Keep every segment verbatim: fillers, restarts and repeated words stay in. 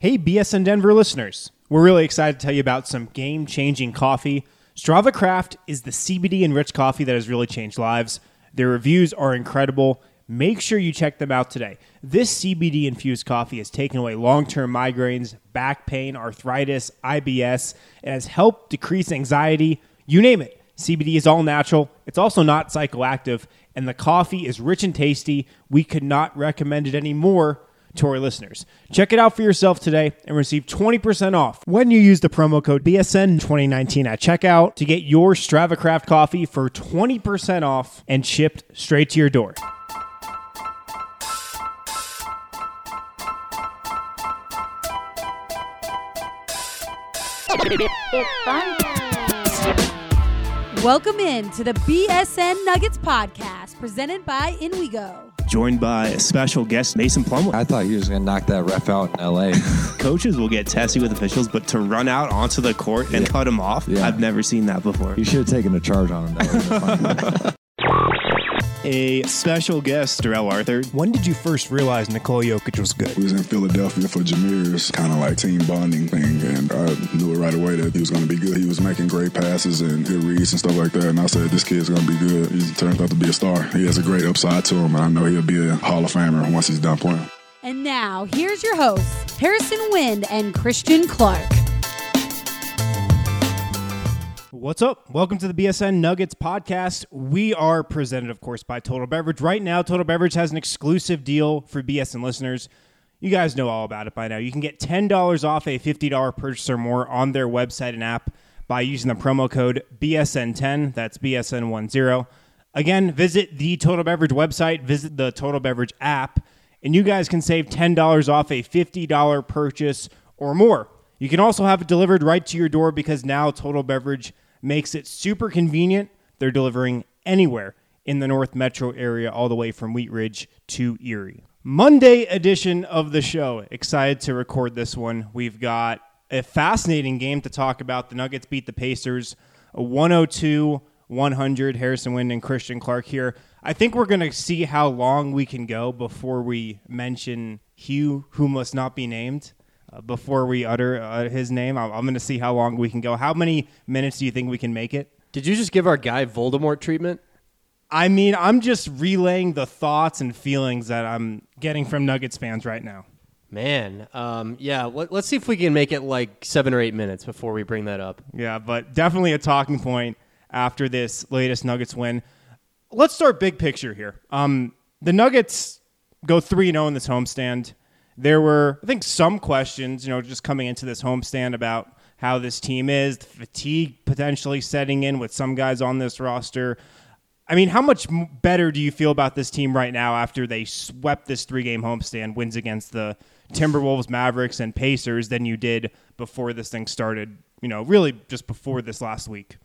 Hey, B S N Denver listeners. We're really excited to tell you about some game-changing coffee. Strava Craft is the C B D-enriched coffee that has really changed lives. Their reviews are incredible. Make sure you check them out today. This C B D-infused coffee has taken away long-term migraines, back pain, arthritis, I B S. It has helped decrease anxiety. You name it. C B D is all natural. It's also not psychoactive. And the coffee is rich and tasty. We could not recommend it any more to our listeners. Check it out for yourself today and receive twenty percent off when you use the promo code B S N twenty nineteen at checkout to get your Strava Craft coffee for twenty percent off and shipped straight to your door. It's fun. Welcome in to the B S N Nuggets podcast presented by InWeGo. Joined by a special guest, Mason Plumlee. I thought he was going to knock that ref out in L A. Coaches will get testy with officials, but to run out onto the court and Yeah. cut him off, Yeah. I've never seen that before. You should have taken a charge on him. That would have been funny. A special guest, Darrell Arthur. When did you first realize Nikola Jokic was good? We was in Philadelphia for Jameer's kind of like team bonding thing, and I knew it right away that he was going to be good. He was making great passes and good reads and stuff like that, and I said, this kid's going to be good. He turns out to be a star. He has a great upside to him, and I know he'll be a Hall of Famer once he's done playing. And now, here's your hosts, Harrison Wind and Christian Clark. What's up? Welcome to the B S N Nuggets podcast. We are presented, of course, by Total Beverage. Right now, Total Beverage has an exclusive deal for B S N listeners. You guys know all about it by now. You can get ten dollars off a fifty dollars purchase or more on their website and app by using the promo code B S N ten. That's B S N ten. Again, visit the Total Beverage website, visit the Total Beverage app, and you guys can save ten dollars off a fifty dollars purchase or more. You can also have it delivered right to your door because now Total Beverage makes it super convenient. They're delivering anywhere in the North Metro area, all the way from Wheat Ridge to Erie. Monday edition of the show. Excited to record this one. We've got a fascinating game to talk about. The Nuggets beat the Pacers, a one oh two one hundred. Harrison Wind and Christian Clark here. I think we're going to see how long we can go before we mention Hugh, who must not be named. Uh, before we utter uh, his name, I'm, I'm going to see how long we can go. How many minutes do you think we can make it? Did you just give our guy Voldemort treatment? I mean, I'm just relaying the thoughts and feelings that I'm getting from Nuggets fans right now. Man, um, yeah, let, let's see if we can make it like seven or eight minutes before we bring that up. Yeah, but definitely a talking point after this latest Nuggets win. Let's start big picture here. Um, the Nuggets go three and oh in this homestand. There were, I think, some questions, you know, just coming into this homestand about how this team is, the fatigue potentially setting in with some guys on this roster. I mean, how much better do you feel about this team right now after they swept this three-game homestand, wins against the Timberwolves, Mavericks, and Pacers than you did before this thing started, you know, really just before this last week?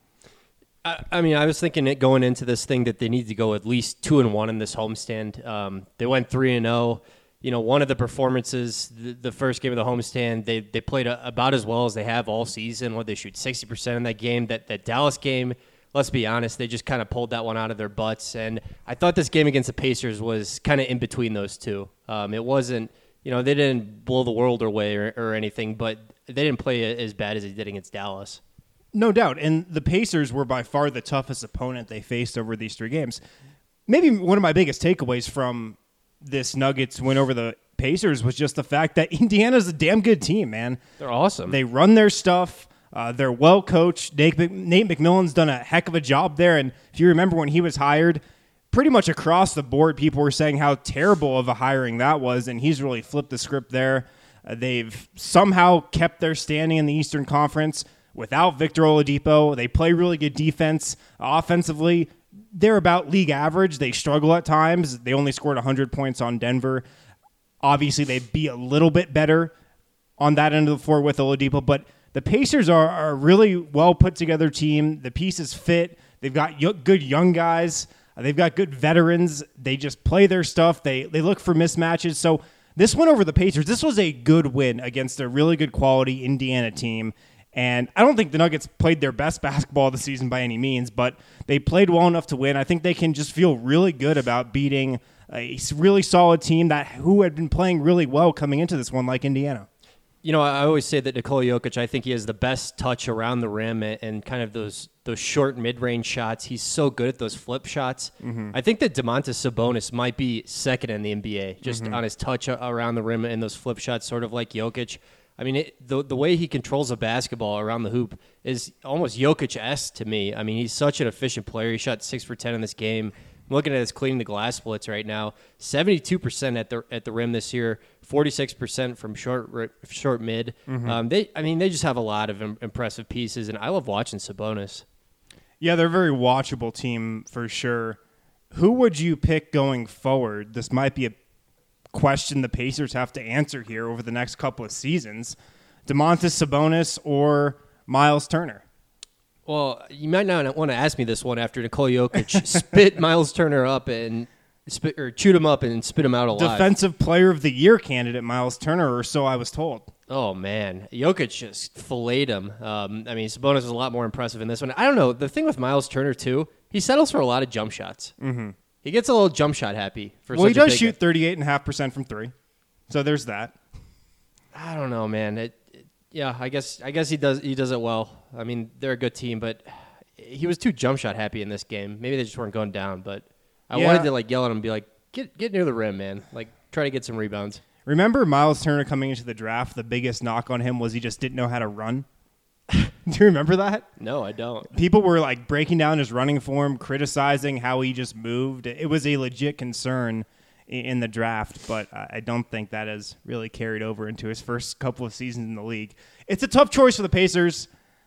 I, I mean, I was thinking it going into this thing that they need to go at least two and one in this homestand. Um, they went three and oh. You know, one of the performances, the, the first game of the homestand, they they played a, about as well as they have all season. Where they shoot sixty percent in that game. That that Dallas game, let's be honest, they just kind of pulled that one out of their butts. And I thought this game against the Pacers was kind of in between those two. Um, it wasn't, you know, they didn't blow the world away or, or anything, but they didn't play as bad as they did against Dallas. No doubt. And the Pacers were by far the toughest opponent they faced over these three games. Maybe one of my biggest takeaways from this Nuggets win over the Pacers was just the fact that Indiana's a damn good team, man. They're awesome. They run their stuff. Uh, they're well coached. Nate, Nate McMillan's done a heck of a job there. And if you remember when he was hired, pretty much across the board, people were saying how terrible of a hiring that was. And he's really flipped the script there. Uh, they've somehow kept their standing in the Eastern Conference without Victor Oladipo. They play really good defense. Offensively, they're about league average. They struggle at times. They only scored one hundred points on Denver. Obviously, they'd be a little bit better on that end of the floor with Oladipo, but the Pacers are, are a really well put together team. The pieces fit. They've got y- good young guys. Uh, they've got good veterans. They just play their stuff. They they look for mismatches. So this win over the Pacers, this was a good win against a really good quality Indiana team. And I don't think the Nuggets played their best basketball this season by any means, but they played well enough to win. I think they can just feel really good about beating a really solid team that who had been playing really well coming into this one, like Indiana. You know, I always say that Nikola Jokic, I think he has the best touch around the rim and, and kind of those those short mid-range shots. He's so good at those flip shots. Mm-hmm. I think that Domantas Sabonis might be second in the N B A, just mm-hmm. on his touch around the rim and those flip shots, sort of like Jokic. I mean, it, the the way he controls a basketball around the hoop is almost Jokic-esque to me. I mean, he's such an efficient player. He shot six for ten in this game. I'm looking at his cleaning the glass splits right now. seventy-two percent at the at the rim this year, forty-six percent from short short mid. Mm-hmm. Um, they, I mean, they just have a lot of im- impressive pieces, and I love watching Sabonis. Yeah, they're a very watchable team for sure. Who would you pick going forward? This might be a question the Pacers have to answer here over the next couple of seasons. Domantas Sabonis or Miles Turner? Well, you might not want to ask me this one after Nikola Jokic spit Miles Turner up and spit or chewed him up and spit him out alive. Defensive Player of the Year candidate Miles Turner, or so I was told. Oh man, Jokic just filleted him. Um, I mean, Sabonis was a lot more impressive in this one. I don't know. The thing with Miles Turner too, he settles for a lot of jump shots. Mm-hmm. He gets a little jump shot happy. For well, such he does a big shoot thirty-eight point five percent from three, so there's that. I don't know, man. It, it, yeah, I guess I guess he does he does it well. I mean, they're a good team, but he was too jump shot happy in this game. Maybe they just weren't going down, but I yeah. wanted to like yell at him and be like, get get near the rim, man. Like, try to get some rebounds. Remember Miles Turner coming into the draft, the biggest knock on him was he just didn't know how to run? Do you remember that? No, I don't. People were like breaking down his running form, criticizing how he just moved. It was a legit concern in the draft, but I don't think that has really carried over into his first couple of seasons in the league. It's a tough choice for the Pacers.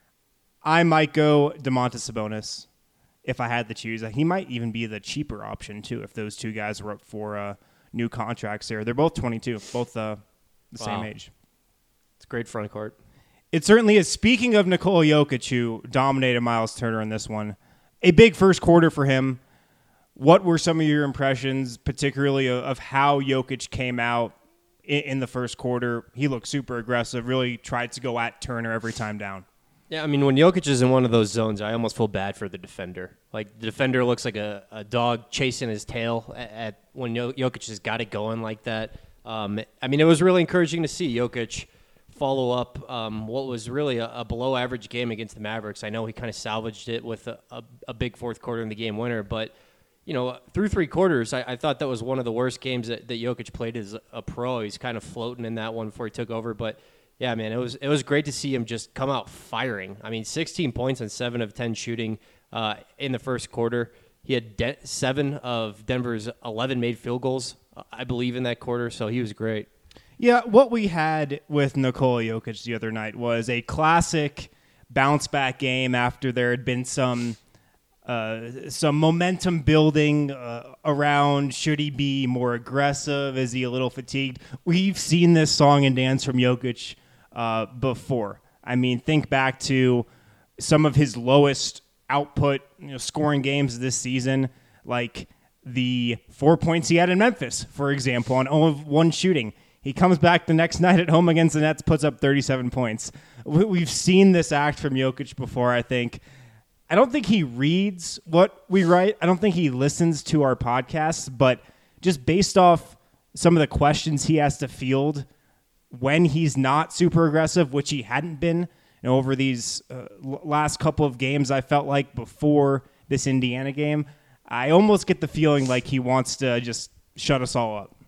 I might go Domantas Sabonis if I had to choose. He might even be the cheaper option, too, if those two guys were up for uh, new contracts here. They're both twenty-two, both uh, the wow. same age. It's great front court. It certainly is. Speaking of Nikola Jokic, who dominated Miles Turner in this one, a big first quarter for him. What were some of your impressions, particularly of, of how Jokic came out in, in the first quarter? He looked super aggressive, really tried to go at Turner every time down. Yeah, I mean, when Jokic is in one of those zones, I almost feel bad for the defender. Like, the defender looks like a, a dog chasing his tail at, at when Jokic has got it going like that. Um, I mean, it was really encouraging to see Jokic follow up um, what was really a, a below-average game against the Mavericks. I know he kind of salvaged it with a, a, a big fourth quarter in the game winner, but, you know, through three quarters, I, I thought that was one of the worst games that, that Jokic played as a pro. He's kind of floating in that one before he took over, but yeah, man, it was it was great to see him just come out firing. I mean, sixteen points and seven of ten shooting uh, in the first quarter. He had de- seven of Denver's eleven made field goals, I believe, in that quarter, so he was great. Yeah, what we had with Nikola Jokic the other night was a classic bounce-back game after there had been some uh, some momentum building uh, around should he be more aggressive, is he a little fatigued? We've seen this song and dance from Jokic Uh, before. I mean, think back to some of his lowest output, you know, scoring games this season, like the four points he had in Memphis, for example, on zero of one shooting. He comes back the next night at home against the Nets, puts up thirty-seven points. We've seen this act from Jokic before, I think. I don't think he reads what we write. I don't think he listens to our podcasts, but just based off some of the questions he has to field when he's not super aggressive, which he hadn't been, you know, over these uh, last couple of games, I felt like before this Indiana game, I almost get the feeling like he wants to just shut us all up.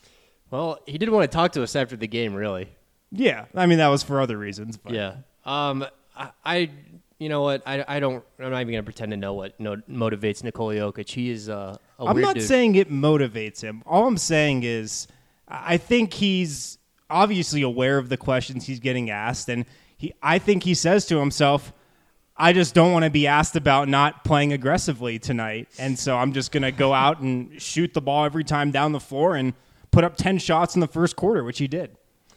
Well, he didn't want to talk to us after the game, really. Yeah, I mean, that was for other reasons. But. Yeah. Um, I, I, you know what, I, I don't, I'm not even going to pretend to know what no, motivates Nikola Jokic. He is uh, a I'm weird not dude. saying it motivates him. All I'm saying is I think he's obviously aware of the questions he's getting asked, and he I think he says to himself, I just don't want to be asked about not playing aggressively tonight, and so I'm just going to go out and shoot the ball every time down the floor and put up ten shots in the first quarter, which he did.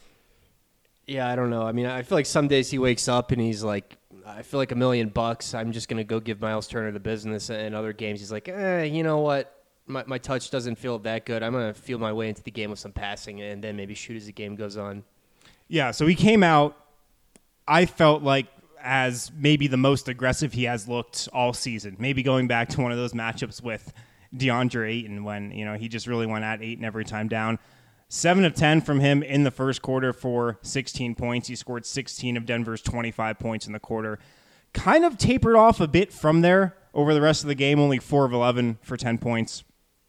Yeah, I don't know. I mean, I feel like some days he wakes up and he's like, I feel like a million bucks. I'm just going to go give Miles Turner the business, and other games he's like, eh, you know what? My my touch doesn't feel that good. I'm going to feel my way into the game with some passing and then maybe shoot as the game goes on. Yeah, so he came out, I felt like, as maybe the most aggressive he has looked all season. Maybe going back to one of those matchups with DeAndre Ayton when, you know, he just really went at Ayton every time down. seven of ten from him in the first quarter for sixteen points. He scored sixteen of Denver's twenty-five points in the quarter. Kind of tapered off a bit from there over the rest of the game, only four of eleven for ten points.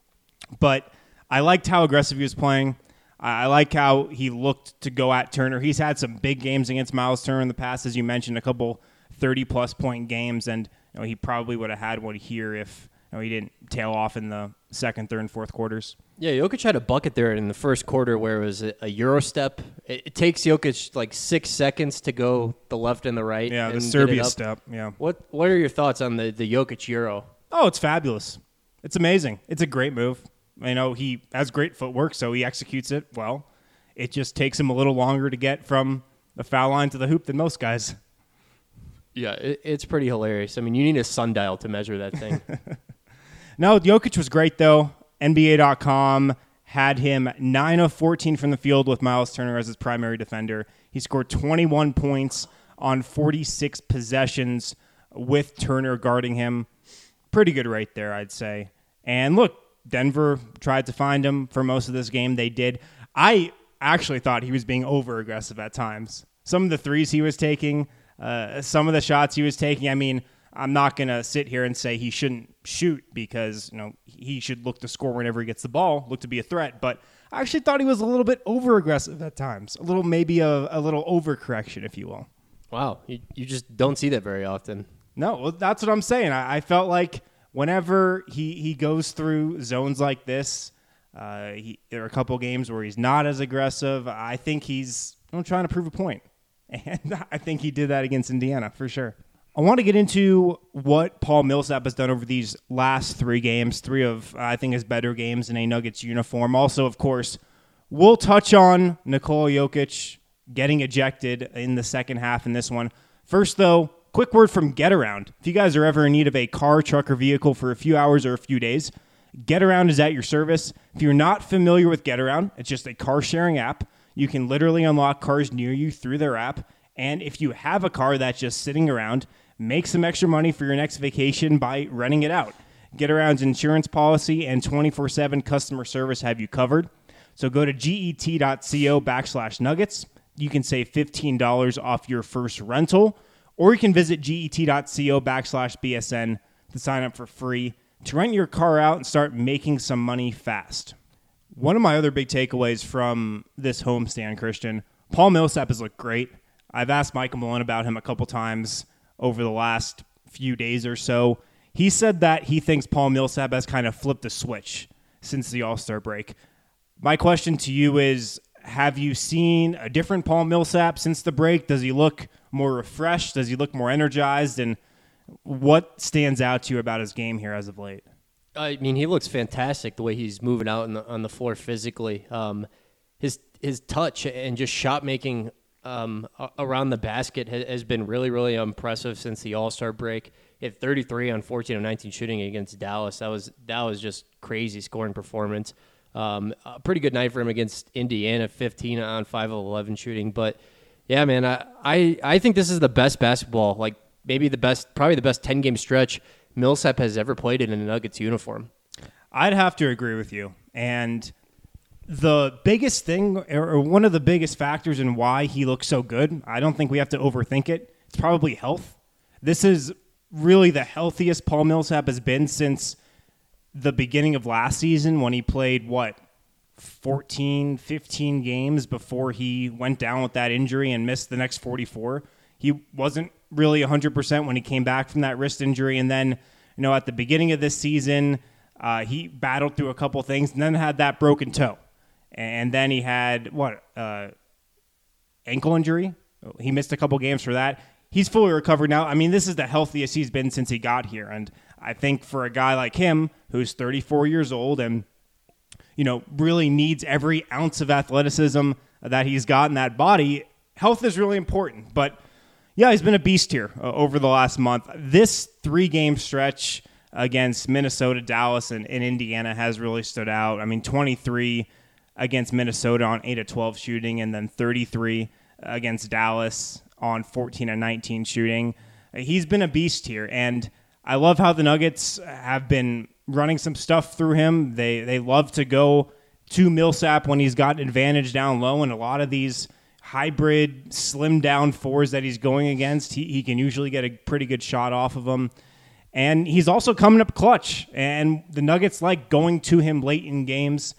But I liked how aggressive he was playing. I like how he looked to go at Turner. He's had some big games against Miles Turner in the past, as you mentioned, a couple thirty-plus point games, and you know, he probably would have had one here if you know, he didn't tail off in the second, third, and fourth quarters. Yeah, Jokic had a bucket there in the first quarter where it was a, a Euro step. It, it takes Jokic like six seconds to go the left and the right. Yeah, the and Serbia get it up. step, yeah. What What are your thoughts on the, the Jokic Euro? Oh, it's fabulous. It's amazing. It's a great move. You know, he has great footwork, so he executes it well. It just takes him a little longer to get from the foul line to the hoop than most guys. Yeah, it, it's pretty hilarious. I mean, you need a sundial to measure that thing. No, Jokic was great, though. N B A dot com had him nine of fourteen from the field with Miles Turner as his primary defender. He scored twenty-one points on forty-six possessions with Turner guarding him. Pretty good rate there, I'd say. And look, Denver tried to find him for most of this game. They did. I actually thought he was being over-aggressive at times. Some of the threes he was taking, uh, some of the shots he was taking, I mean, I'm not going to sit here and say he shouldn't shoot because, you know, he should look to score whenever he gets the ball, look to be a threat. But I actually thought he was a little bit over-aggressive at times. A little, maybe a, a little overcorrection, if you will. Wow, you, you just don't see that very often. No, well, that's what I'm saying. I, I felt like whenever he, he goes through zones like this, uh, he, there are a couple games where he's not as aggressive. I think he's you know, trying to prove a point. And I think he did that against Indiana for sure. I want to get into what Paul Millsap has done over these last three games, three of, I think, his better games in a Nuggets uniform. Also, of course, we'll touch on Nikola Jokic getting ejected in the second half in this one. First, though, quick word from GetAround. If you guys are ever in need of a car, truck, or vehicle for a few hours or a few days, GetAround is at your service. If you're not familiar with GetAround, it's just a car-sharing app. You can literally unlock cars near you through their app. And if you have a car that's just sitting around, make some extra money for your next vacation by renting it out. GetAround's insurance policy and twenty-four seven customer service have you covered. So go to get.co backslash nuggets. You can save fifteen dollars off your first rental. Or you can visit get.co backslash BSN to sign up for free to rent your car out and start making some money fast. One of my other big takeaways from this homestand, Christian, Paul Millsap has looked great. I've asked Michael Malone about him a couple times over the last few days or so. He said that he thinks Paul Millsap has kind of flipped a switch since the All-Star break. My question to you is, have you seen a different Paul Millsap since the break? Does he look more refreshed? Does he look more energized? And what stands out to you about his game here as of late? I mean, he looks fantastic the way he's moving out in the, on the floor physically. Um, his his touch and just shot making um, around the basket has, has been really, really impressive since the All-Star break. He had thirty-three on fourteen of nineteen shooting against Dallas. That was that was just crazy scoring performance. Um, a pretty good night for him against Indiana, fifteen on five of eleven shooting. But yeah, man, I, I I think this is the best basketball, like maybe the best, probably the best ten game stretch Millsap has ever played in a Nuggets uniform. I'd have to agree with you. And the biggest thing, or one of the biggest factors in why he looks so good, I don't think we have to overthink it. It's probably health. This is really the healthiest Paul Millsap has been since the beginning of last season when he played, what, fourteen, fifteen games before he went down with that injury and missed the next forty-four. He wasn't really one hundred percent when he came back from that wrist injury. And then, you know, at the beginning of this season, uh, he battled through a couple things and then had that broken toe. And then he had, what, uh, ankle injury? He missed a couple games for that. He's fully recovered now. I mean, this is the healthiest he's been since he got here. And I think for a guy like him, who's thirty-four years old and, you know, really needs every ounce of athleticism that he's got in that body, health is really important. But yeah, he's been a beast here uh, over the last month. This three-game stretch against Minnesota, Dallas, and, and Indiana has really stood out. I mean, twenty-three against Minnesota on eight of twelve shooting, and then thirty-three against Dallas on fourteen of nineteen shooting. He's been a beast here, and I love how the Nuggets have been running some stuff through him. They they love to go to Millsap when he's got advantage down low, and a lot of these hybrid slim down fours that he's going against, he, he can usually get a pretty good shot off of them. And he's also coming up clutch, and the Nuggets like going to him late in games.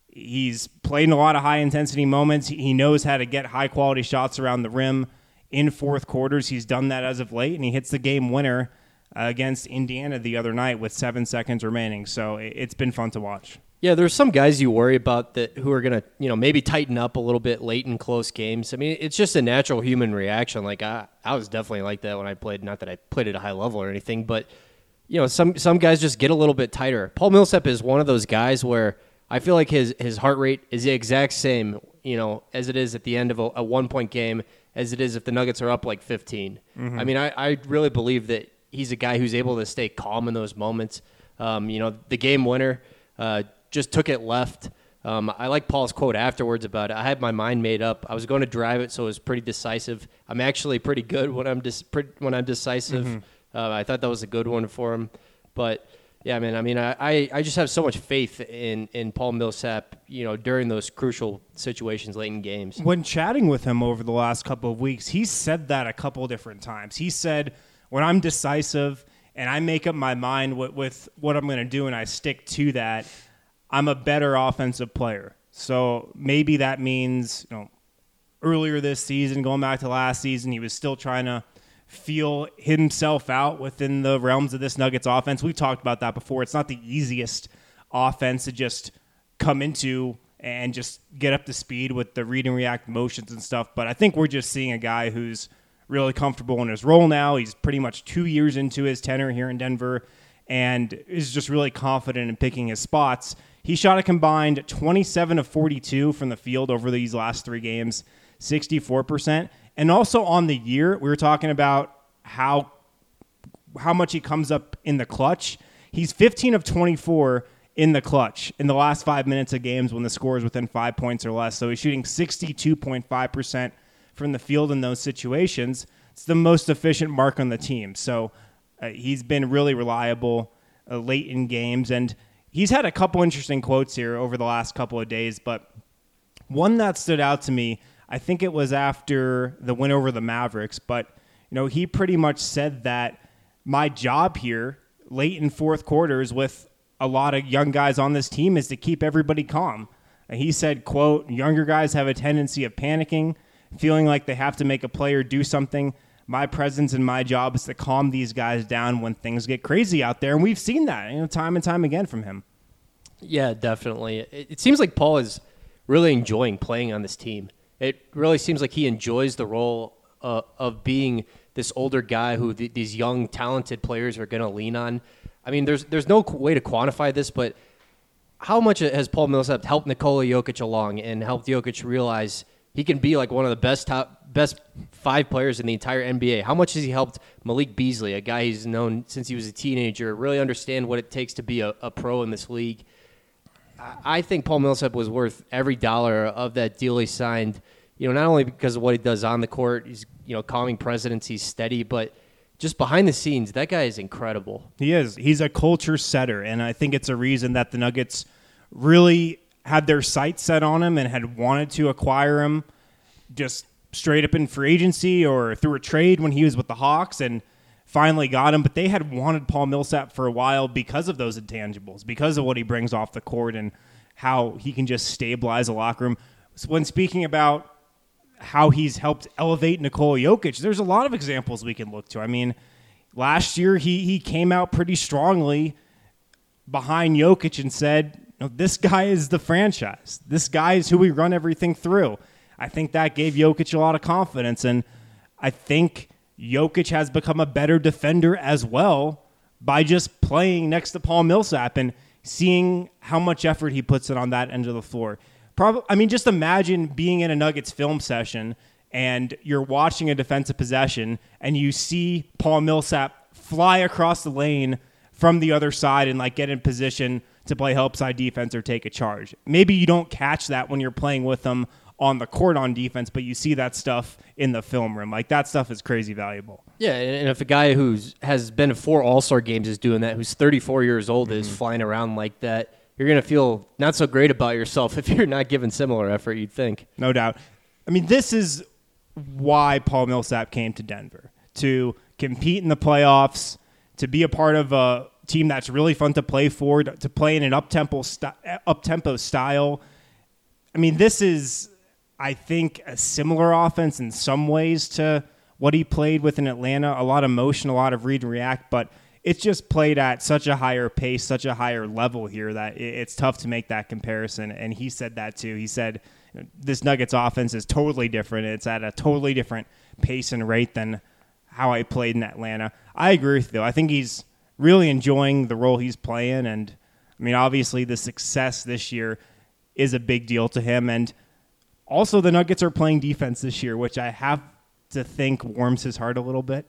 He's played in a lot of high-intensity moments. He knows how to get high-quality shots around the rim in fourth quarters. He's done that as of late, and he hits the game winner uh, against Indiana the other night with seven seconds remaining. So it's been fun to watch. Yeah, there's some guys you worry about that who are going to, you know, maybe tighten up a little bit late in close games. I mean, it's just a natural human reaction. Like, I, I was definitely like that when I played. Not that I played at a high level or anything, but, you know, some some guys just get a little bit tighter. Paul Millsap is one of those guys where I feel like his, his heart rate is the exact same, you know, as it is at the end of a, a one-point game as it is if the Nuggets are up like fifteen. Mm-hmm. I mean, I, I really believe that he's a guy who's able to stay calm in those moments. Um, you know, the game winner, uh, just took it left. Um, I like Paul's quote afterwards about it. I had my mind made up. I was going to drive it, so it was pretty decisive. I'm actually pretty good when I'm dis- when I'm decisive. Mm-hmm. Uh, I thought that was a good one for him. But, yeah, man, I mean, I, I, I just have so much faith in, in Paul Millsap, you know, during those crucial situations late in games. When chatting with him over the last couple of weeks, he said that a couple of different times. He said, when I'm decisive and I make up my mind with, with what I'm going to do and I stick to that, I'm a better offensive player. So maybe that means, you know, earlier this season, going back to last season, he was still trying to feel himself out within the realms of this Nuggets offense. We've talked about that before. It's not the easiest offense to just come into and just get up to speed with the read and react motions and stuff. But I think we're just seeing a guy who's really comfortable in his role now. He's pretty much two years into his tenure here in Denver and is just really confident in picking his spots. He shot a combined twenty-seven of forty-two from the field over these last three games, sixty-four percent. And also on the year, we were talking about how how much he comes up in the clutch. He's fifteen of twenty-four in the clutch in the last five minutes of games when the score is within five points or less. So he's shooting sixty-two point five percent from the field in those situations. It's the most efficient mark on the team. So uh, he's been really reliable uh, late in games. And he's had a couple interesting quotes here over the last couple of days, but one that stood out to me, I think it was after the win over the Mavericks, but you know, he pretty much said that my job here late in fourth quarters with a lot of young guys on this team is to keep everybody calm. And he said, quote, younger guys have a tendency of panicking, feeling like they have to make a play or do something. My presence and my job is to calm these guys down when things get crazy out there. And we've seen that, you know, time and time again from him. Yeah, definitely. It, it seems like Paul is really enjoying playing on this team. It really seems like he enjoys the role uh, of being this older guy who th- these young, talented players are going to lean on. I mean, there's there's no way to quantify this, but how much has Paul Millsap helped Nikola Jokic along and helped Jokic realize he can be like one of the best top, best five players in the entire N B A? How much has he helped Malik Beasley, a guy he's known since he was a teenager, really understand what it takes to be a, a pro in this league? I think Paul Millsap was worth every dollar of that deal he signed. You know, not only because of what he does on the court, he's, you know, calming presence, he's steady, but just behind the scenes, that guy is incredible. He is. He's a culture setter, and I think it's a reason that the Nuggets really had their sights set on him and had wanted to acquire him just straight up in free agency or through a trade when he was with the Hawks, and finally got him. But they had wanted Paul Millsap for a while because of those intangibles, because of what he brings off the court and how he can just stabilize a locker room. So when speaking about how he's helped elevate Nikola Jokic, there's a lot of examples we can look to. I mean, last year he he came out pretty strongly behind Jokic and said, you know, this guy is the franchise. This guy is who we run everything through. I think that gave Jokic a lot of confidence, and I think Jokic has become a better defender as well by just playing next to Paul Millsap and seeing how much effort he puts in on that end of the floor. Probably, I mean, just imagine being in a Nuggets film session and you're watching a defensive possession and you see Paul Millsap fly across the lane from the other side and like get in position to play help side defense or take a charge. Maybe you don't catch that when you're playing with them on the court on defense, but you see that stuff in the film room. Like, that stuff is crazy valuable. Yeah, and if a guy who's has been to four All-Star games is doing that, who's thirty-four years old, mm-hmm. is flying around like that, you're going to feel not so great about yourself if you're not giving similar effort, you'd think. No doubt. I mean, this is why Paul Millsap came to Denver, to compete in the playoffs, to be a part of a team that's really fun to play for, to play in an up-tempo, st- up-tempo style. I mean, this is, I think, a similar offense in some ways to what he played with in Atlanta. A lot of motion, a lot of read and react, but it's just played at such a higher pace, such a higher level here that it's tough to make that comparison. And he said that too. He said, this Nuggets offense is totally different. It's at a totally different pace and rate than how I played in Atlanta. I agree with you, though. I think he's really enjoying the role he's playing. And, I mean, obviously the success this year is a big deal to him. And also the Nuggets are playing defense this year, which I have to think warms his heart a little bit.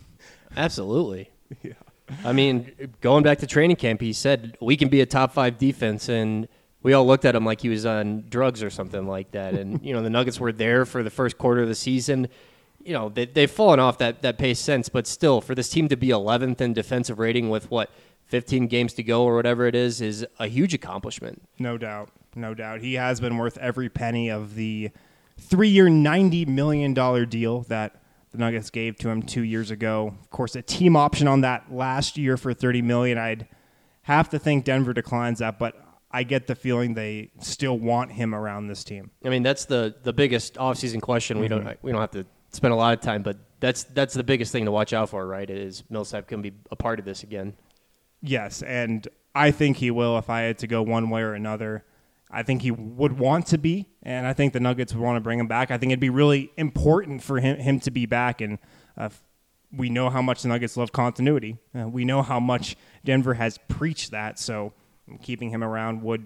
Absolutely. Yeah. I mean, going back to training camp, he said we can be a top five defense, and we all looked at him like he was on drugs or something like that. And, you know, the Nuggets were there for the first quarter of the season. You know, they, they've fallen off that, that pace since, but still, for this team to be eleventh in defensive rating with, what, fifteen games to go or whatever it is, is a huge accomplishment. No doubt. No doubt. He has been worth every penny of the three-year, ninety million dollars deal that the Nuggets gave to him two years ago. Of course, a team option on that last year for thirty million dollars. I'd have to think Denver declines that, but I get the feeling they still want him around this team. I mean, that's the, the biggest offseason question. Mm-hmm. We don't we don't have to spend a lot of time, but that's that's the biggest thing to watch out for, right? Is Millsap can be a part of this again? Yes, and I think he will. If I had to go one way or another, I think he would want to be, and I think the Nuggets would want to bring him back. I think it'd be really important for him him to be back, and uh, we know how much the Nuggets love continuity. Uh, we know how much Denver has preached that, so keeping him around would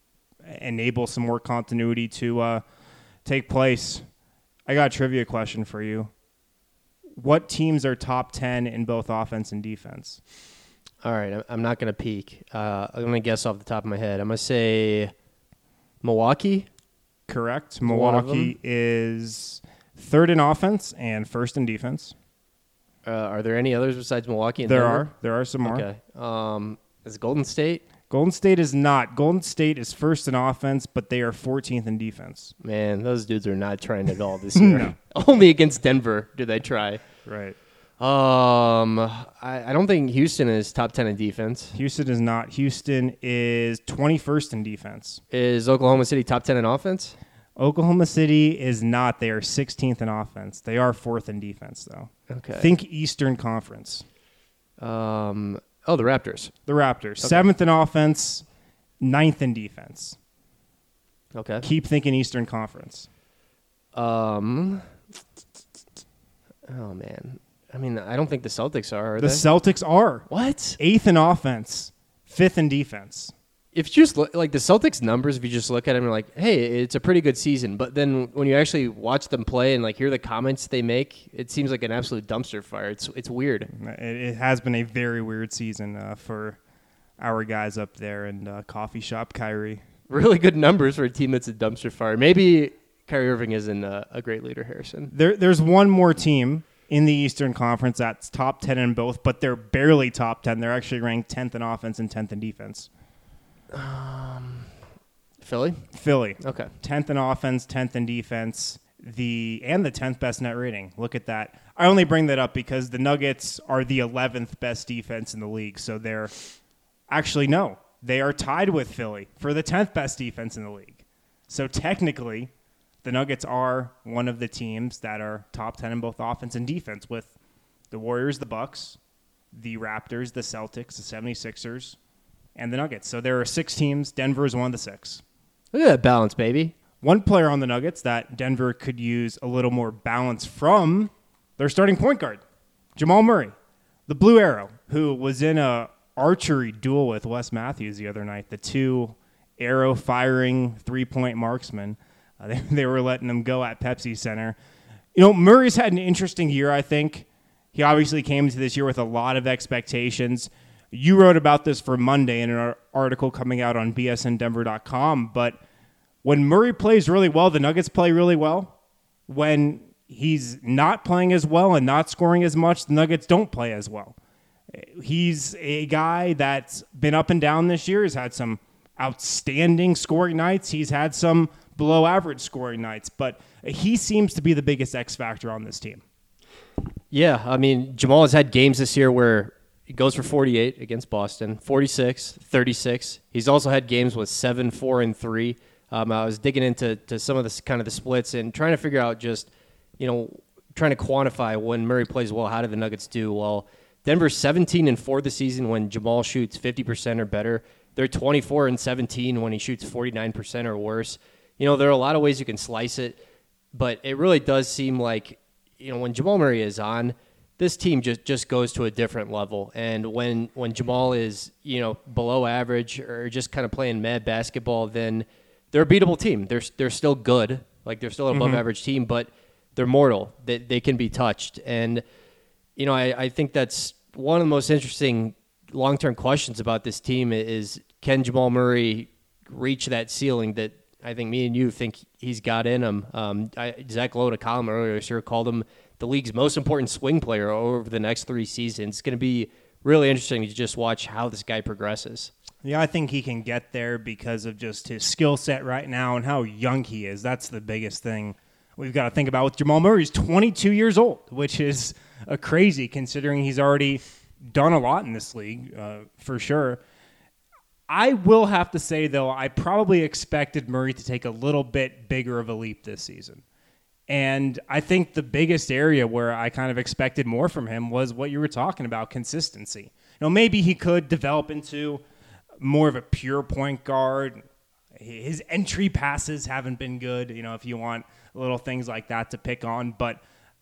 enable some more continuity to uh, take place. I got a trivia question for you. What teams are top ten in both offense and defense? All right, I'm not going to peek. Uh, I'm going to guess off the top of my head. I'm going to say Milwaukee. Correct. Milwaukee is third in offense and first in defense. Uh, are there any others besides Milwaukee? And there Denver? are. There are some more. Okay. Um, is it Golden State? Golden State is not. Golden State is first in offense, but they are fourteenth in defense. Man, those dudes are not trying at all this year. No. Only against Denver do they try. Right. Um, I, I don't think Houston is top ten in defense. Houston is not. Houston is twenty-first in defense. Is Oklahoma City top ten in offense? Oklahoma City is not. They are sixteenth in offense. They are fourth in defense, though. Okay. Think Eastern Conference. Um. Oh, the Raptors. The Raptors. Okay. Seventh in offense, ninth in defense. Okay. Keep thinking Eastern Conference. Um. Oh, man. I mean, I don't think the Celtics are, are the they? Celtics are. What? Eighth in offense, fifth in defense. If you just look, like the Celtics numbers, if you just look at them, you're like, hey, it's a pretty good season. But then when you actually watch them play and like hear the comments they make, it seems like an absolute dumpster fire. It's it's weird. It, it has been a very weird season uh, for our guys up there in uh, Coffee Shop Kyrie. Really good numbers for a team that's a dumpster fire. Maybe Kyrie Irving isn't a, a great leader, Harrison. There, there's one more team in the Eastern Conference that's top ten in both, but they're barely top ten. They're actually ranked tenth in offense and tenth in defense. Um, Philly? Philly. Okay. tenth in offense, tenth in defense, the and the tenth best net rating. Look at that. I only bring that up because the Nuggets are the eleventh best defense in the league. So they're actually, no, they are tied with Philly for the tenth best defense in the league. So technically, the Nuggets are one of the teams that are top ten in both offense and defense with the Warriors, the Bucks, the Raptors, the Celtics, the seventy-sixers, and the Nuggets. So there are six teams. Denver is one of the six. Look at that balance, baby. One player on the Nuggets that Denver could use a little more balance from, their starting point guard, Jamal Murray, the Blue Arrow, who was in a archery duel with Wes Matthews the other night, the two arrow-firing three-point marksmen. Uh, they, they were letting them go at Pepsi Center. You know, Murray's had an interesting year, I think. He obviously came into this year with a lot of expectations. You wrote about this for Monday in an article coming out on B S N Denver dot com, but when Murray plays really well, the Nuggets play really well. When he's not playing as well and not scoring as much, the Nuggets don't play as well. He's a guy that's been up and down this year. He's had some outstanding scoring nights. He's had some below average scoring nights, but he seems to be the biggest X factor on this team. Yeah, I mean, Jamal has had games this year where he goes for forty-eight against Boston, forty-six, thirty-six. He's also had games with seven, four, and three. Um, I was digging into to some of this kind of the splits and trying to figure out just, you know, trying to quantify when Murray plays well, how do the Nuggets do? Well, Denver's seventeen and four this season when Jamal shoots fifty percent or better. They're twenty-four and seventeen when he shoots forty-nine percent or worse. You know, there are a lot of ways you can slice it, but it really does seem like, you know, when Jamal Murray is on, this team just, just goes to a different level. And when, when Jamal is, you know, below average or just kind of playing mad basketball, then they're a beatable team. They're they're still good. Like, they're still an above mm-hmm. average team, but they're mortal. They, they can be touched. And, you know, I, I think that's one of the most interesting long-term questions about this team is, can Jamal Murray reach that ceiling that I think me and you think he's got in him? Um, I, Zach Lowe, a column earlier this year, called him the league's most important swing player over the next three seasons. It's going to be really interesting to just watch how this guy progresses. Yeah, I think he can get there because of just his skill set right now and how young he is. That's the biggest thing we've got to think about with Jamal Murray. He's twenty-two years old, which is a crazy considering he's already done a lot in this league, uh, for sure. I will have to say, though, I probably expected Murray to take a little bit bigger of a leap this season. And I think the biggest area where I kind of expected more from him was what you were talking about, consistency. You know, maybe he could develop into more of a pure point guard. His entry passes haven't been good, you know, if you want little things like that to pick on. But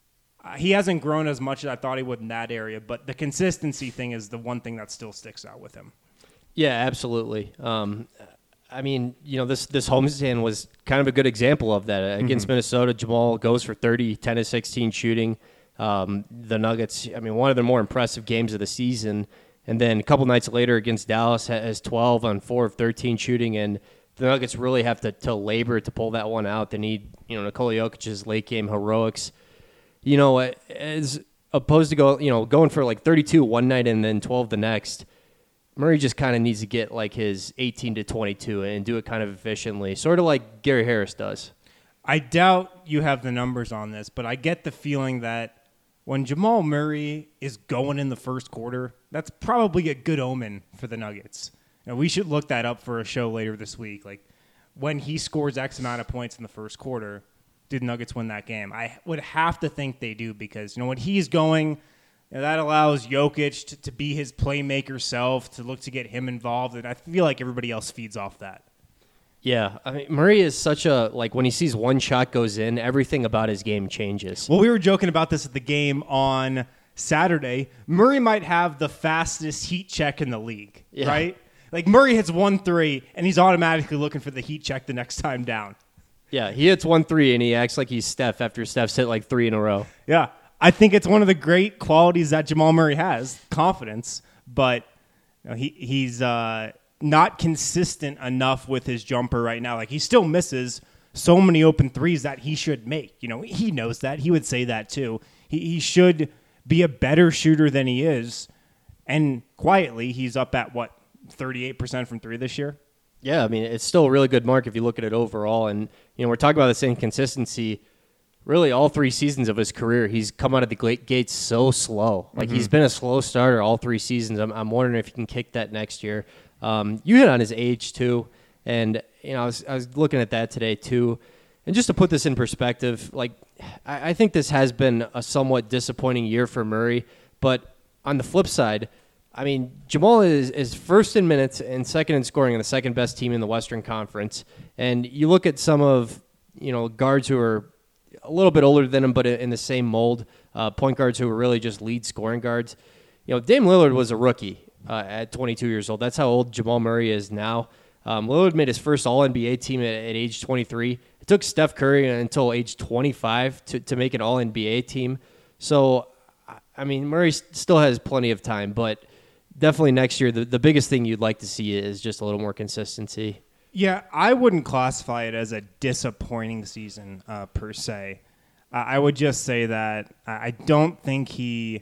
he hasn't grown as much as I thought he would in that area. But the consistency thing is the one thing that still sticks out with him. Yeah, absolutely. Um, I mean, you know, this this homestand was kind of a good example of that. Against mm-hmm. Minnesota, Jamal goes for thirty, ten to sixteen shooting. Um, the Nuggets, I mean, one of the more impressive games of the season. And then a couple nights later against Dallas has twelve on four of thirteen shooting. And the Nuggets really have to, to labor to pull that one out. They need, you know, Nikola Jokic's late game heroics. You know, as opposed to go, you know, going for like thirty-two one night and then twelve the next. Murray just kind of needs to get like his eighteen to twenty-two and do it kind of efficiently, sort of like Gary Harris does. I doubt you have the numbers on this, but I get the feeling that when Jamal Murray is going in the first quarter, that's probably a good omen for the Nuggets. Now, we should look that up for a show later this week. Like, when he scores X amount of points in the first quarter, did Nuggets win that game? I would have to think they do because, you know, when he's going, you know, that allows Jokic to, to be his playmaker self, to look to get him involved, and I feel like everybody else feeds off that. Yeah, I mean, Murray is such a, like, when he sees one shot goes in, everything about his game changes. Well, we were joking about this at the game on Saturday. Murray might have the fastest heat check in the league, yeah. right? Like, Murray hits one three, and he's automatically looking for the heat check the next time down. Yeah, he hits one three, and he acts like he's Steph after Steph's hit like three in a row. Yeah. I think it's one of the great qualities that Jamal Murray has, confidence, but you know, he he's uh, not consistent enough with his jumper right now. Like, he still misses so many open threes that he should make. You know, he knows that. He would say that too. He he should be a better shooter than he is, and quietly he's up at, what, thirty-eight percent from three this year? Yeah, I mean, it's still a really good mark if you look at it overall, and you know, we're talking about the same consistency. Really, all three seasons of his career, he's come out of the gates so slow. Like, mm-hmm. he's been a slow starter all three seasons. I'm, I'm wondering if he can kick that next year. Um, you hit on his age, too. And, you know, I was, I was looking at that today, too. And just to put this in perspective, like, I, I think this has been a somewhat disappointing year for Murray. But on the flip side, I mean, Jamal is, is first in minutes and second in scoring on the second best team in the Western Conference. And you look at some of, you know, guards who are a little bit older than him, but in the same mold, uh, point guards who were really just lead scoring guards. You know, Dame Lillard was a rookie uh, at twenty-two years old. That's how old Jamal Murray is now. Um, Lillard made his first All N B A team at, at age twenty-three. It took Steph Curry until age twenty-five to, to make an All N B A team. So, I mean, Murray still has plenty of time, but definitely next year, the, the biggest thing you'd like to see is just a little more consistency. Yeah, I wouldn't classify it as a disappointing season uh, per se. Uh, I would just say that I don't think he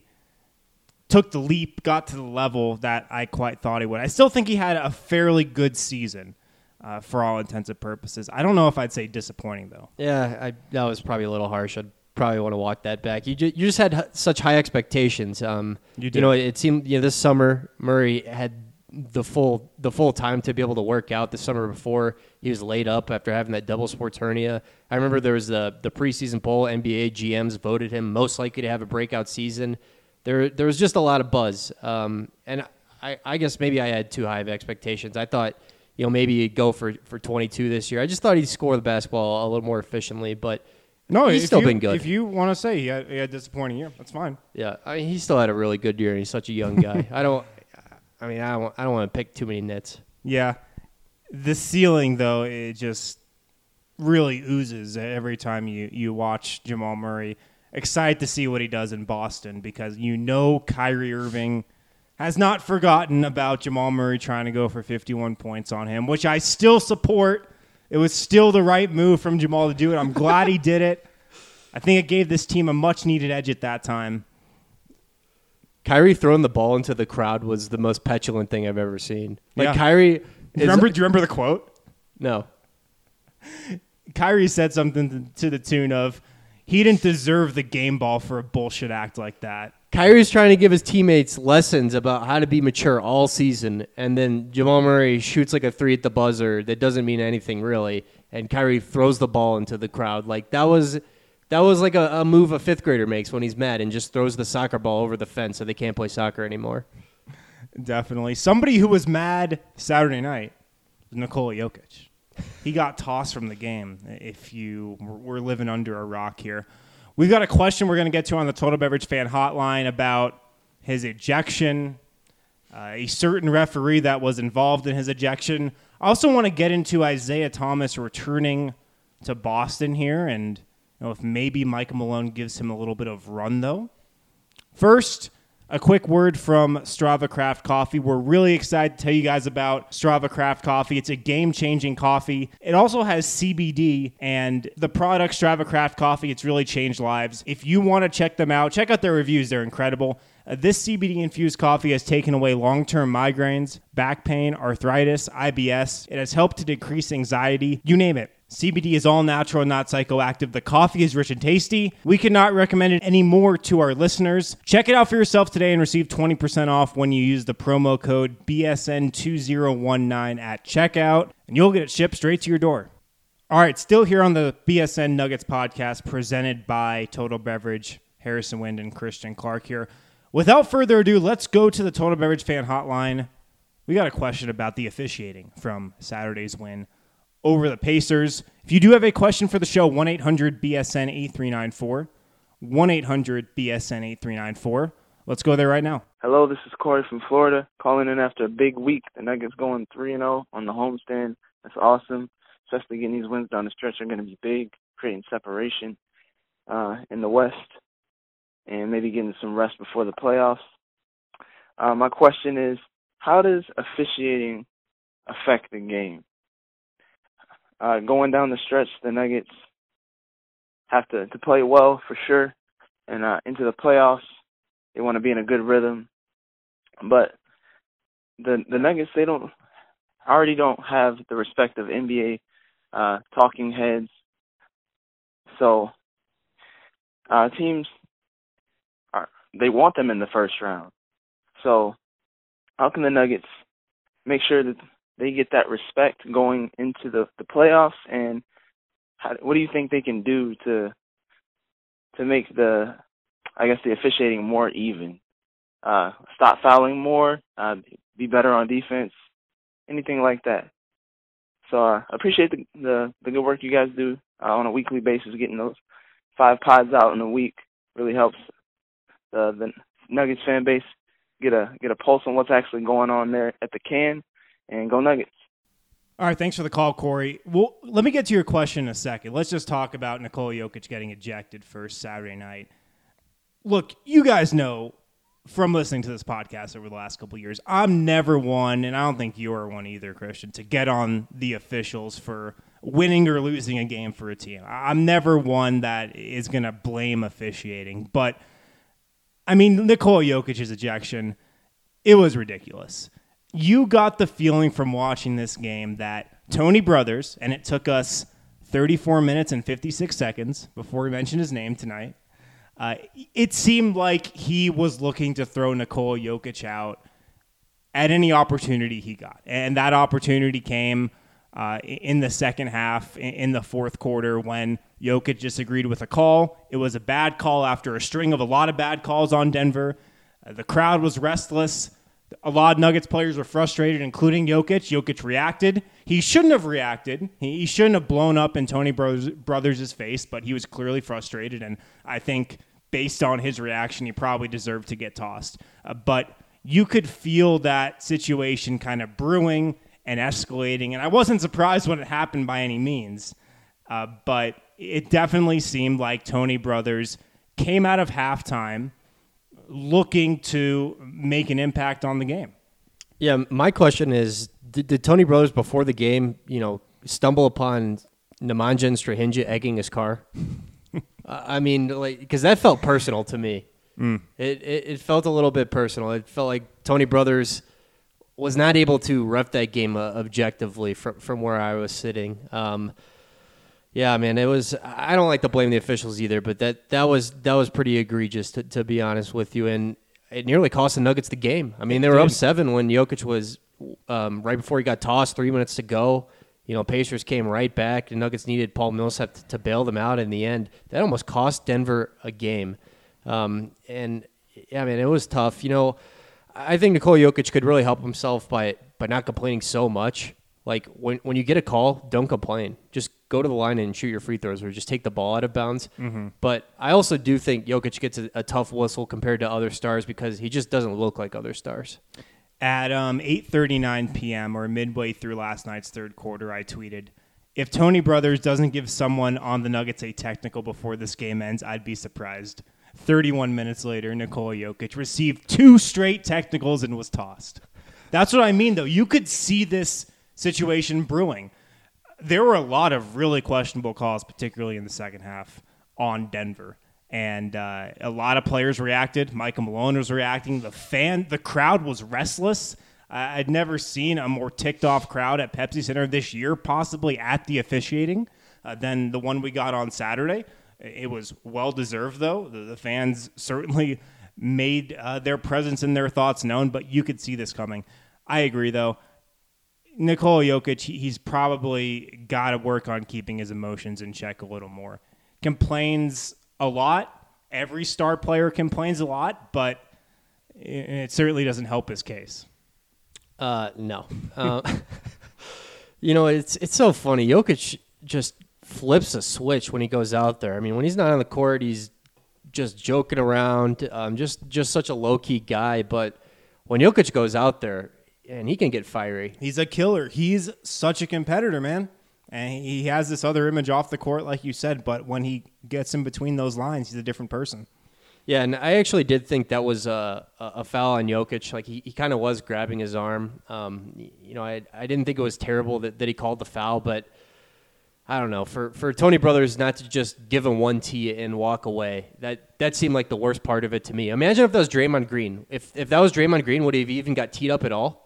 took the leap, got to the level that I quite thought he would. I still think he had a fairly good season. uh, for all intents and purposes. I don't know if I'd say disappointing, though. Yeah, I, that was probably a little harsh. I'd probably want to walk that back. You just, you just had h- such high expectations. Um, You did. You know, it, it seemed you know, this summer Murray had the full the full time to be able to work out. The summer before, he was laid up after having that double sports hernia. I remember there was the the preseason poll. N B A G Ms voted him most likely to have a breakout season. There there was just a lot of buzz, um, and I, I guess maybe I had too high of expectations. I thought, you know, maybe he'd go for, for twenty-two this year. I just thought he'd score the basketball a little more efficiently, but No, he's if still you, been good. If you want to say he had, he had a disappointing year, that's fine. Yeah, I mean, he still had a really good year, and he's such a young guy. I don't, I mean, I don't, I don't want to pick too many nits. Yeah. The ceiling, though, it just really oozes every time you, you watch Jamal Murray. Excited to see what he does in Boston because you know Kyrie Irving has not forgotten about Jamal Murray trying to go for fifty-one points on him, which I still support. It was still the right move from Jamal to do it. I'm glad he did it. I think it gave this team a much-needed edge at that time. Kyrie throwing the ball into the crowd was the most petulant thing I've ever seen. Like Yeah. Kyrie, is, Do you remember, do you remember the quote? No, Kyrie said something to the tune of, he didn't deserve the game ball for a bullshit act like that. Kyrie's trying to give his teammates lessons about how to be mature all season, and then Jamal Murray shoots like a three at the buzzer that doesn't mean anything really, and Kyrie throws the ball into the crowd. Like that was that was like a, a move a fifth grader makes when he's mad and just throws the soccer ball over the fence so they can't play soccer anymore. Definitely. Somebody who was mad Saturday night was Nikola Jokic. He got tossed from the game, if you were living under a rock here. We've got a question we're going to get to on the Total Beverage Fan Hotline about his ejection, uh, a certain referee that was involved in his ejection. I also want to get into Isaiah Thomas returning to Boston here, and you know, if maybe Michael Malone gives him a little bit of run, though. First, a quick word from Strava Craft Coffee. We're really excited to tell you guys about Strava Craft Coffee. It's a game-changing coffee. It also has C B D, and the product Strava Craft Coffee, it's really changed lives. If you want to check them out, check out their reviews. They're incredible. Uh, this C B D-infused coffee has taken away long-term migraines, back pain, arthritis, I B S. It has helped to decrease anxiety. You name it. C B D is all natural and not psychoactive. The coffee is rich and tasty. We cannot recommend it anymore to our listeners. Check it out for yourself today and receive twenty percent off when you use the promo code B S N two zero one nine at checkout, and you'll get it shipped straight to your door. All right, still here on the B S N Nuggets podcast presented by Total Beverage. Harrison Wind and Christian Clark here. Without further ado, let's go to the Total Beverage Fan Hotline. We got a question about the officiating from Saturday's win over the Pacers. If you do have a question for the show, one eight hundred B S N eight three nine four. one eight hundred B S N eight three nine four. Let's go there right now. Hello, this is Corey from Florida, calling in after a big week. The Nuggets going three and oh on the homestand. That's awesome. Especially getting these wins down the stretch are going to be big, creating separation uh, in the West, and maybe getting some rest before the playoffs. Uh, my question is, how does officiating affect the game? Uh, going down the stretch, the Nuggets have to, to play well for sure, and uh, into the playoffs, they want to be in a good rhythm. But the the Nuggets, they don't already don't have the respect of N B A uh, talking heads. So uh, teams are they want them in the first round. So how can the Nuggets make sure that they get that respect going into the, the playoffs, and how, what do you think they can do to to make the, I guess, the officiating more even? Uh, stop fouling more, uh, be better on defense, anything like that. So uh, I appreciate the, the the good work you guys do uh, on a weekly basis. Getting those five pods out in a week really helps the the Nuggets fan base get a get a pulse on what's actually going on there at the can. And go Nuggets. All right, thanks for the call, Corey. Well, let me get to your question in a second. Let's just talk about Nikola Jokic getting ejected first Saturday night. Look, you guys know from listening to this podcast over the last couple of years, I'm never one, and I don't think you're one either, Christian, to get on the officials for winning or losing a game for a team. I'm never one that is going to blame officiating. But, I mean, Nikola Jokic's ejection, it was ridiculous. You got the feeling from watching this game that Tony Brothers, and it took us thirty-four minutes and fifty-six seconds before we mentioned his name tonight. Uh, it seemed like he was looking to throw Nikola Jokic out at any opportunity he got. And that opportunity came uh, in the second half, in the fourth quarter, when Jokic disagreed with a call. It was a bad call after a string of a lot of bad calls on Denver. Uh, the crowd was restless. A lot of Nuggets players were frustrated, including Jokic. Jokic reacted. He shouldn't have reacted. He, he shouldn't have blown up in Tony Brothers, Brothers' face, but he was clearly frustrated, and I think based on his reaction, he probably deserved to get tossed. Uh, but you could feel that situation kind of brewing and escalating, and I wasn't surprised when it happened by any means, uh, but it definitely seemed like Tony Brothers came out of halftime looking to make an impact on the game. Yeah, my question is, did, did Tony Brothers before the game, you know, stumble upon Nemanja Strahinja egging his car? I mean, like, because that felt personal to me. Mm. It, it it felt a little bit personal. It felt like Tony Brothers was not able to ref that game uh, objectively from from where I was sitting. Um, yeah, man, it was. I don't like to blame the officials either, but that, that was that was pretty egregious to, to be honest with you, and it nearly cost the Nuggets the game. I mean, they were up seven when Jokic was um, right before he got tossed, three minutes to go. You know, Pacers came right back. The Nuggets needed Paul Millsap to, to bail them out in the end. That almost cost Denver a game. Um, and, yeah, man, it was tough. You know, I think Nikola Jokic could really help himself by by not complaining so much. Like, when, when you get a call, don't complain. Just go to the line and shoot your free throws or just take the ball out of bounds. Mm-hmm. But I also do think Jokic gets a, a tough whistle compared to other stars because he just doesn't look like other stars. At um, eight thirty-nine p.m. or midway through last night's third quarter, I tweeted, if Tony Brothers doesn't give someone on the Nuggets a technical before this game ends, I'd be surprised. thirty-one minutes later, Nikola Jokic received two straight technicals and was tossed. That's what I mean, though. You could see this situation brewing. There were a lot of really questionable calls, particularly in the second half, on Denver. And uh, a lot of players reacted. Michael Malone was reacting. The fan, the crowd was restless. Uh, I'd never seen a more ticked-off crowd at Pepsi Center this year, possibly at the officiating, uh, than the one we got on Saturday. It was well-deserved, though. The, the fans certainly made uh, their presence and their thoughts known, but you could see this coming. I agree, though. Nikola Jokic, he, he's probably got to work on keeping his emotions in check a little more. Complains a lot. Every star player complains a lot, but it, it certainly doesn't help his case. Uh, no. Uh, you know, it's it's so funny. Jokic just flips a switch when he goes out there. I mean, when he's not on the court, he's just joking around, um, just just such a low-key guy. But when Jokic goes out there, and he can get fiery. He's a killer. He's such a competitor, man. And he has this other image off the court, like you said, but when he gets in between those lines, he's a different person. Yeah, and I actually did think that was a, a foul on Jokic. Like, he, he kind of was grabbing his arm. Um, you know, I I didn't think it was terrible that, that he called the foul, but I don't know. For for Tony Brothers not to just give him one tee and walk away, that that seemed like the worst part of it to me. Imagine if that was Draymond Green. If if that was Draymond Green, would he have even got teed up at all?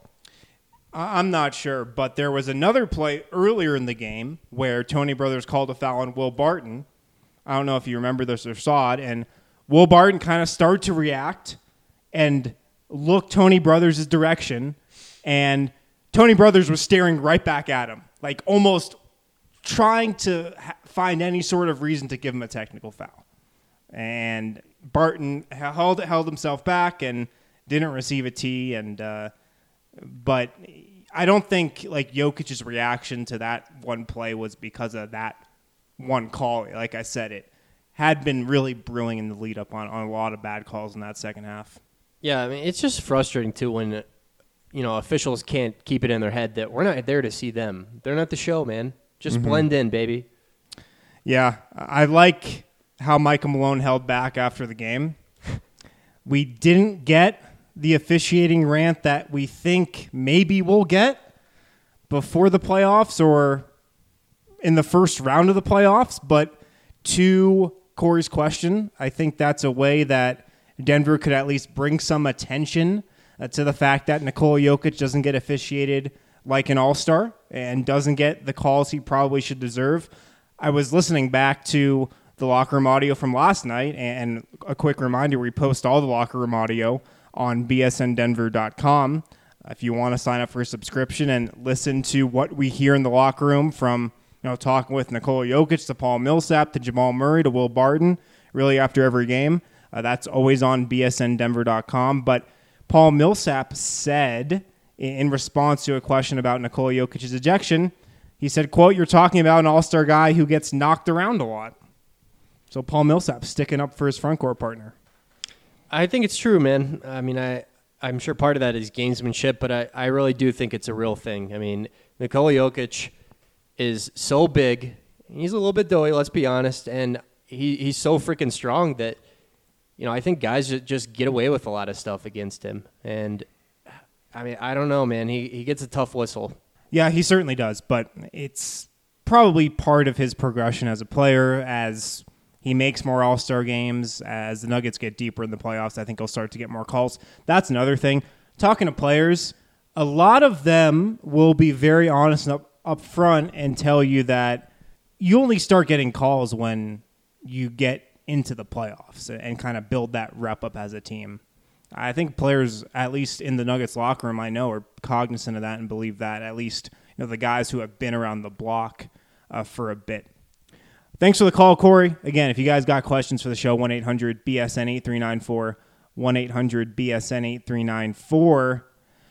I'm not sure, but there was another play earlier in the game where Tony Brothers called a foul on Will Barton. I don't know if you remember this or saw it, and Will Barton kind of started to react and look Tony Brothers' direction, and Tony Brothers was staring right back at him, like almost trying to ha- find any sort of reason to give him a technical foul. And Barton held held himself back and didn't receive a tee, and uh, but I don't think like Jokic's reaction to that one play was because of that one call. Like I said, it had been really brewing in the lead up on, on a lot of bad calls in that second half. Yeah, I mean, it's just frustrating too when, you know, officials can't keep it in their head that we're not there to see them. They're not the show, man. Just mm-hmm. blend in, baby. Yeah, I like how Michael Malone held back after the game. We didn't get the officiating rant that we think maybe we'll get before the playoffs or in the first round of the playoffs. But to Corey's question, I think that's a way that Denver could at least bring some attention uh, to the fact that Nikola Jokic doesn't get officiated like an all-star. and doesn't get the calls he probably should deserve. I was listening back to the locker room audio from last night, and a quick reminder, we post all the locker room audio on B S N Denver dot com. If you want to sign up for a subscription and listen to what we hear in the locker room from, you know, talking with Nikola Jokic to Paul Millsap to Jamal Murray to Will Barton, really after every game, uh, that's always on B S N Denver dot com. But Paul Millsap said, in response to a question about Nikola Jokic's ejection, he said, quote, "You're talking about an all-star guy who gets knocked around a lot." So Paul Millsap sticking up for his front court partner. I think it's true, man. I mean, I, I'm sure part of that is gamesmanship, but I, I really do think it's a real thing. I mean, Nikola Jokic is so big. He's a little bit doughy, let's be honest, and he, he's so freaking strong that, you know, I think guys just get away with a lot of stuff against him. And, I mean, I don't know, man. He, he gets a tough whistle. Yeah, he certainly does, but it's probably part of his progression as a player. As he makes more all-star games, as the Nuggets get deeper in the playoffs, I think he'll start to get more calls. That's another thing. Talking to players, a lot of them will be very honest and up, up front and tell you that you only start getting calls when you get into the playoffs and kind of build that rep up as a team. I think players, at least in the Nuggets locker room, I know, are cognizant of that and believe that, at least, you know, the guys who have been around the block uh, for a bit. Thanks for the call, Corey. Again, if you guys got questions for the show, one eight hundred B S N eight three nine four, one eight hundred B S N eight three nine four.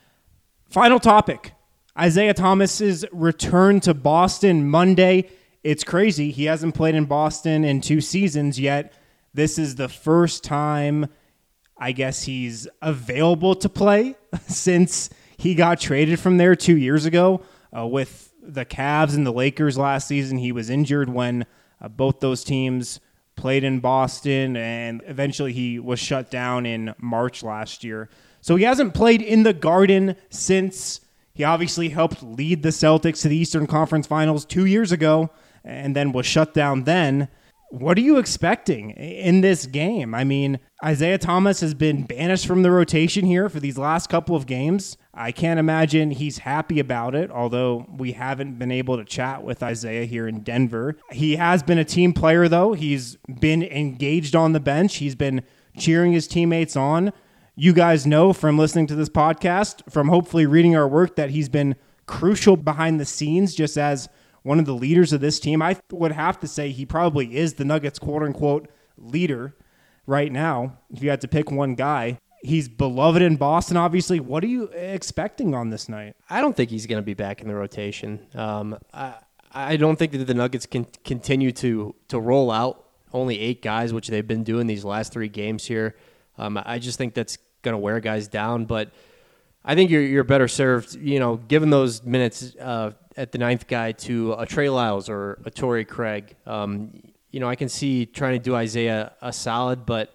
Final topic, Isaiah Thomas's return to Boston Monday. It's crazy. He hasn't played in Boston in two seasons yet. This is the first time, I guess, he's available to play since he got traded from there two years ago. Uh, with the Cavs and the Lakers last season, he was injured when uh, both those teams played in Boston, and eventually he was shut down in March last year. So he hasn't played in the Garden since he obviously helped lead the Celtics to the Eastern Conference Finals two years ago and then was shut down then. What are you expecting in this game? I mean, Isaiah Thomas has been banished from the rotation here for these last couple of games. I can't imagine he's happy about it, although we haven't been able to chat with Isaiah here in Denver. He has been a team player, though. He's been engaged on the bench. He's been cheering his teammates on. You guys know from listening to this podcast, from hopefully reading our work, that he's been crucial behind the scenes just as one of the leaders of this team. I would have to say he probably is the Nuggets quote-unquote leader right now. If you had to pick one guy, he's beloved in Boston, obviously. What are you expecting on this night? I don't think he's going to be back in the rotation. Um, I, I don't think that the Nuggets can continue to to roll out only eight guys, which they've been doing these last three games here. Um, I just think that's going to wear guys down, but I think you're you're better served, you know, given those minutes uh, at the ninth guy to a Trey Lyles or a Torrey Craig. Um, you know, I can see trying to do Isaiah a solid, but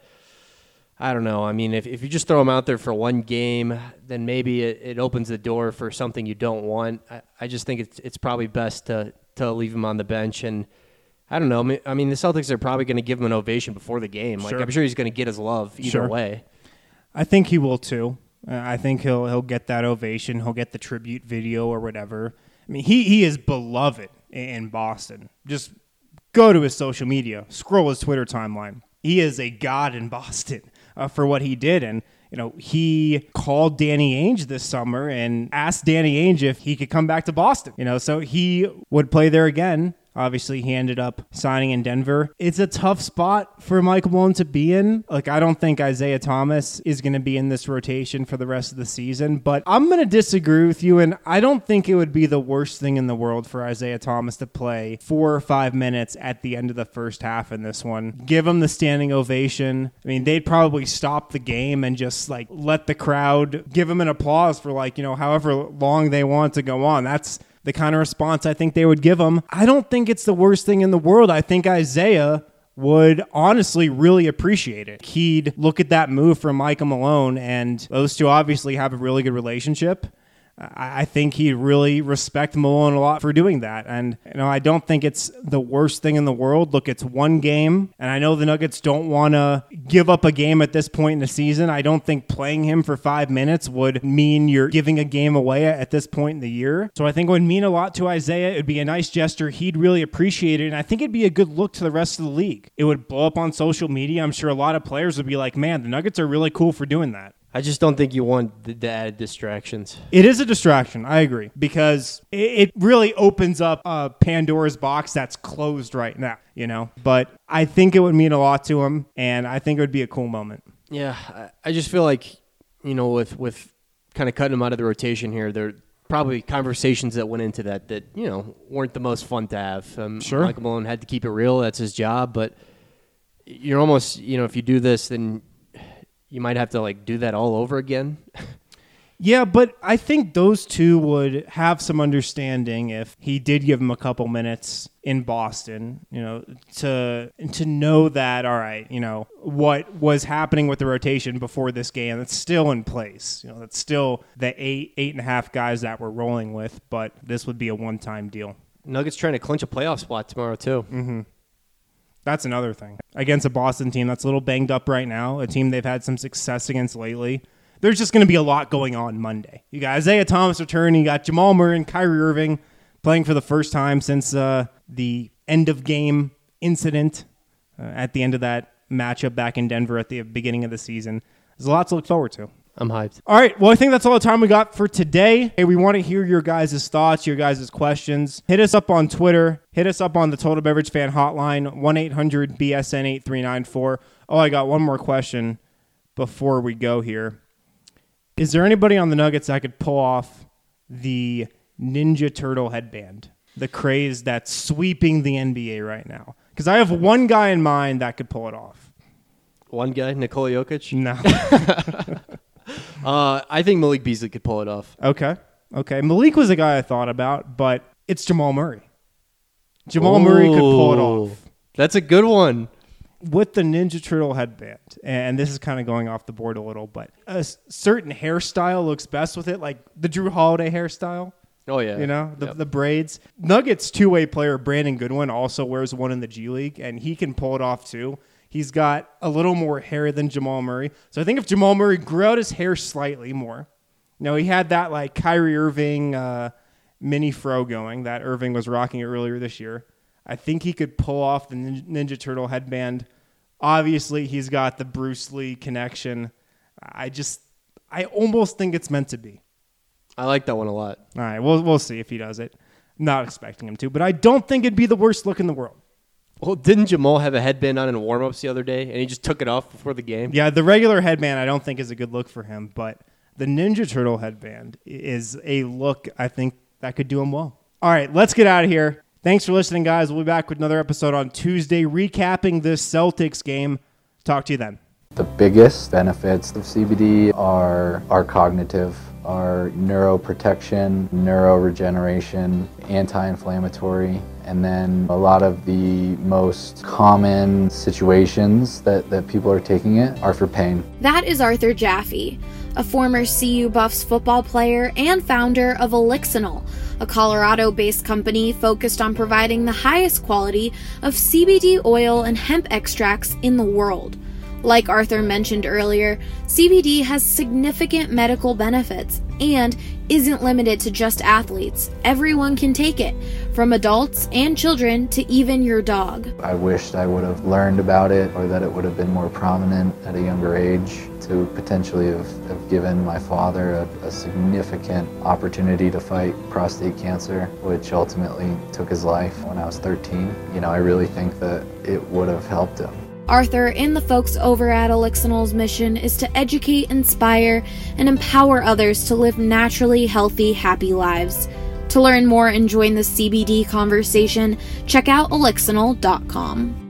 I don't know. I mean, if, if you just throw him out there for one game, then maybe it, it opens the door for something you don't want. I, I just think it's it's probably best to, to leave him on the bench. And I don't know. I mean, the Celtics are probably going to give him an ovation before the game. Like, sure. I'm sure he's going to get his love either sure. way. I think he will too. Uh, I think he'll he'll get that ovation. He'll get the tribute video or whatever. I mean, he, he is beloved in Boston. Just go to his social media, scroll his Twitter timeline. He is a god in Boston uh, for what he did. And, you know, he called Danny Ainge this summer and asked Danny Ainge if he could come back to Boston. You know, so he would play there again. Obviously, he ended up signing in Denver. It's a tough spot for Michael Malone to be in. Like, I don't think Isaiah Thomas is going to be in this rotation for the rest of the season, but I'm going to disagree with you, and I don't think it would be the worst thing in the world for Isaiah Thomas to play four or five minutes at the end of the first half in this one. Give him the standing ovation. I mean, they'd probably stop the game and just, like, let the crowd give him an applause for, like, you know, however long they want to go on. That's the kind of response I think they would give him. I don't think it's the worst thing in the world. I think Isaiah would honestly really appreciate it. He'd look at that move from Michael Malone, and those two obviously have a really good relationship. I, I think he'd really respect Malone a lot for doing that. And, you know, I don't think it's the worst thing in the world. Look, it's one game, and I know the Nuggets don't want to give up a game at this point in the season. I don't think playing him for five minutes would mean you're giving a game away at this point in the year. So I think it would mean a lot to Isaiah. It'd be a nice gesture. He'd really appreciate it, and I think it'd be a good look to the rest of the league. It would blow up on social media. I'm sure a lot of players would be like, man, the Nuggets are really cool for doing that. I just don't think you want the, the added distractions. It is a distraction. I agree, because it, it really opens up a Pandora's box that's closed right now, you know, but I think it would mean a lot to him, and I think it would be a cool moment. Yeah. I, I just feel like, you know, with, with kind of cutting him out of the rotation here, there are probably conversations that went into that that, you know, weren't the most fun to have. Um, Sure. Michael Malone had to keep it real. That's his job. But you're almost, you know, if you do this, then you might have to, like, do that all over again. Yeah, but I think those two would have some understanding if he did give him a couple minutes in Boston, you know, to to know that, all right, you know, what was happening with the rotation before this game, that's still in place. You know, that's still the eight, eight and a half guys that we're rolling with, but this would be a one-time deal. Nuggets trying to clinch a playoff spot tomorrow, too. Mm-hmm. That's another thing. Against a Boston team that's a little banged up right now, a team they've had some success against lately. There's just going to be a lot going on Monday. You got Isaiah Thomas returning. You got Jamal Murray and Kyrie Irving playing for the first time since uh, the end-of-game incident uh, at the end of that matchup back in Denver at the beginning of the season. There's a lot to look forward to. I'm hyped. All right, well, I think that's all the time we got for today. Hey, we want to hear your guys' thoughts, your guys' questions. Hit us up on Twitter. Hit us up on the Total Beverage Fan Hotline, one eight hundred B S N eight three nine four. Oh, I got one more question before we go here. Is there anybody on the Nuggets that could pull off the Ninja Turtle headband, the craze that's sweeping the N B A right now? Because I have one guy in mind that could pull it off. One guy, Nikola Jokic? No. uh, I think Malik Beasley could pull it off. Okay. Okay. Malik was a guy I thought about, but it's Jamal Murray. Jamal Ooh, Murray could pull it off. That's a good one. With the Ninja Turtle headband, and this is kind of going off the board a little, but a certain hairstyle looks best with it, like the Drew Holiday hairstyle. Oh, yeah. You know, the, Yep. the braids. Nuggets two-way player Brandon Goodwin also wears one in the G League, and he can pull it off too. He's got a little more hair than Jamal Murray. So I think if Jamal Murray grew out his hair slightly more, you know, he had that like Kyrie Irving uh, mini fro going that Irving was rocking earlier this year. I think he could pull off the Ninja Turtle headband. Obviously, he's got the Bruce Lee connection. I just, I almost think it's meant to be. I like that one a lot. All right, we'll we'll see if he does it. Not expecting him to, but I don't think it'd be the worst look in the world. Well, didn't Jamal have a headband on in warm-ups the other day, and he just took it off before the game? Yeah, the regular headband I don't think is a good look for him, but the Ninja Turtle headband is a look I think that could do him well. All right, let's get out of here. Thanks for listening, guys. We'll be back with another episode on Tuesday, recapping this Celtics game. Talk to you then. The biggest benefits of C B D are, are cognitive, are neuroprotection, neuroregeneration, anti-inflammatory, and then a lot of the most common situations that, that people are taking it are for pain. That is Arthur Jaffe, a former C U Buffs football player and founder of Elixinol, a Colorado-based company focused on providing the highest quality of C B D oil and hemp extracts in the world. Like Arthur mentioned earlier, C B D has significant medical benefits and isn't limited to just athletes. Everyone can take it, from adults and children to even your dog. I wished I would have learned about it, or that it would have been more prominent at a younger age, to potentially have, have given my father a, a significant opportunity to fight prostate cancer, which ultimately took his life when I was thirteen. You know, I really think that it would have helped him. Arthur and the folks over at Elixinol's mission is to educate, inspire, and empower others to live naturally healthy, happy lives. To learn more and join the C B D conversation, check out elixinol dot com.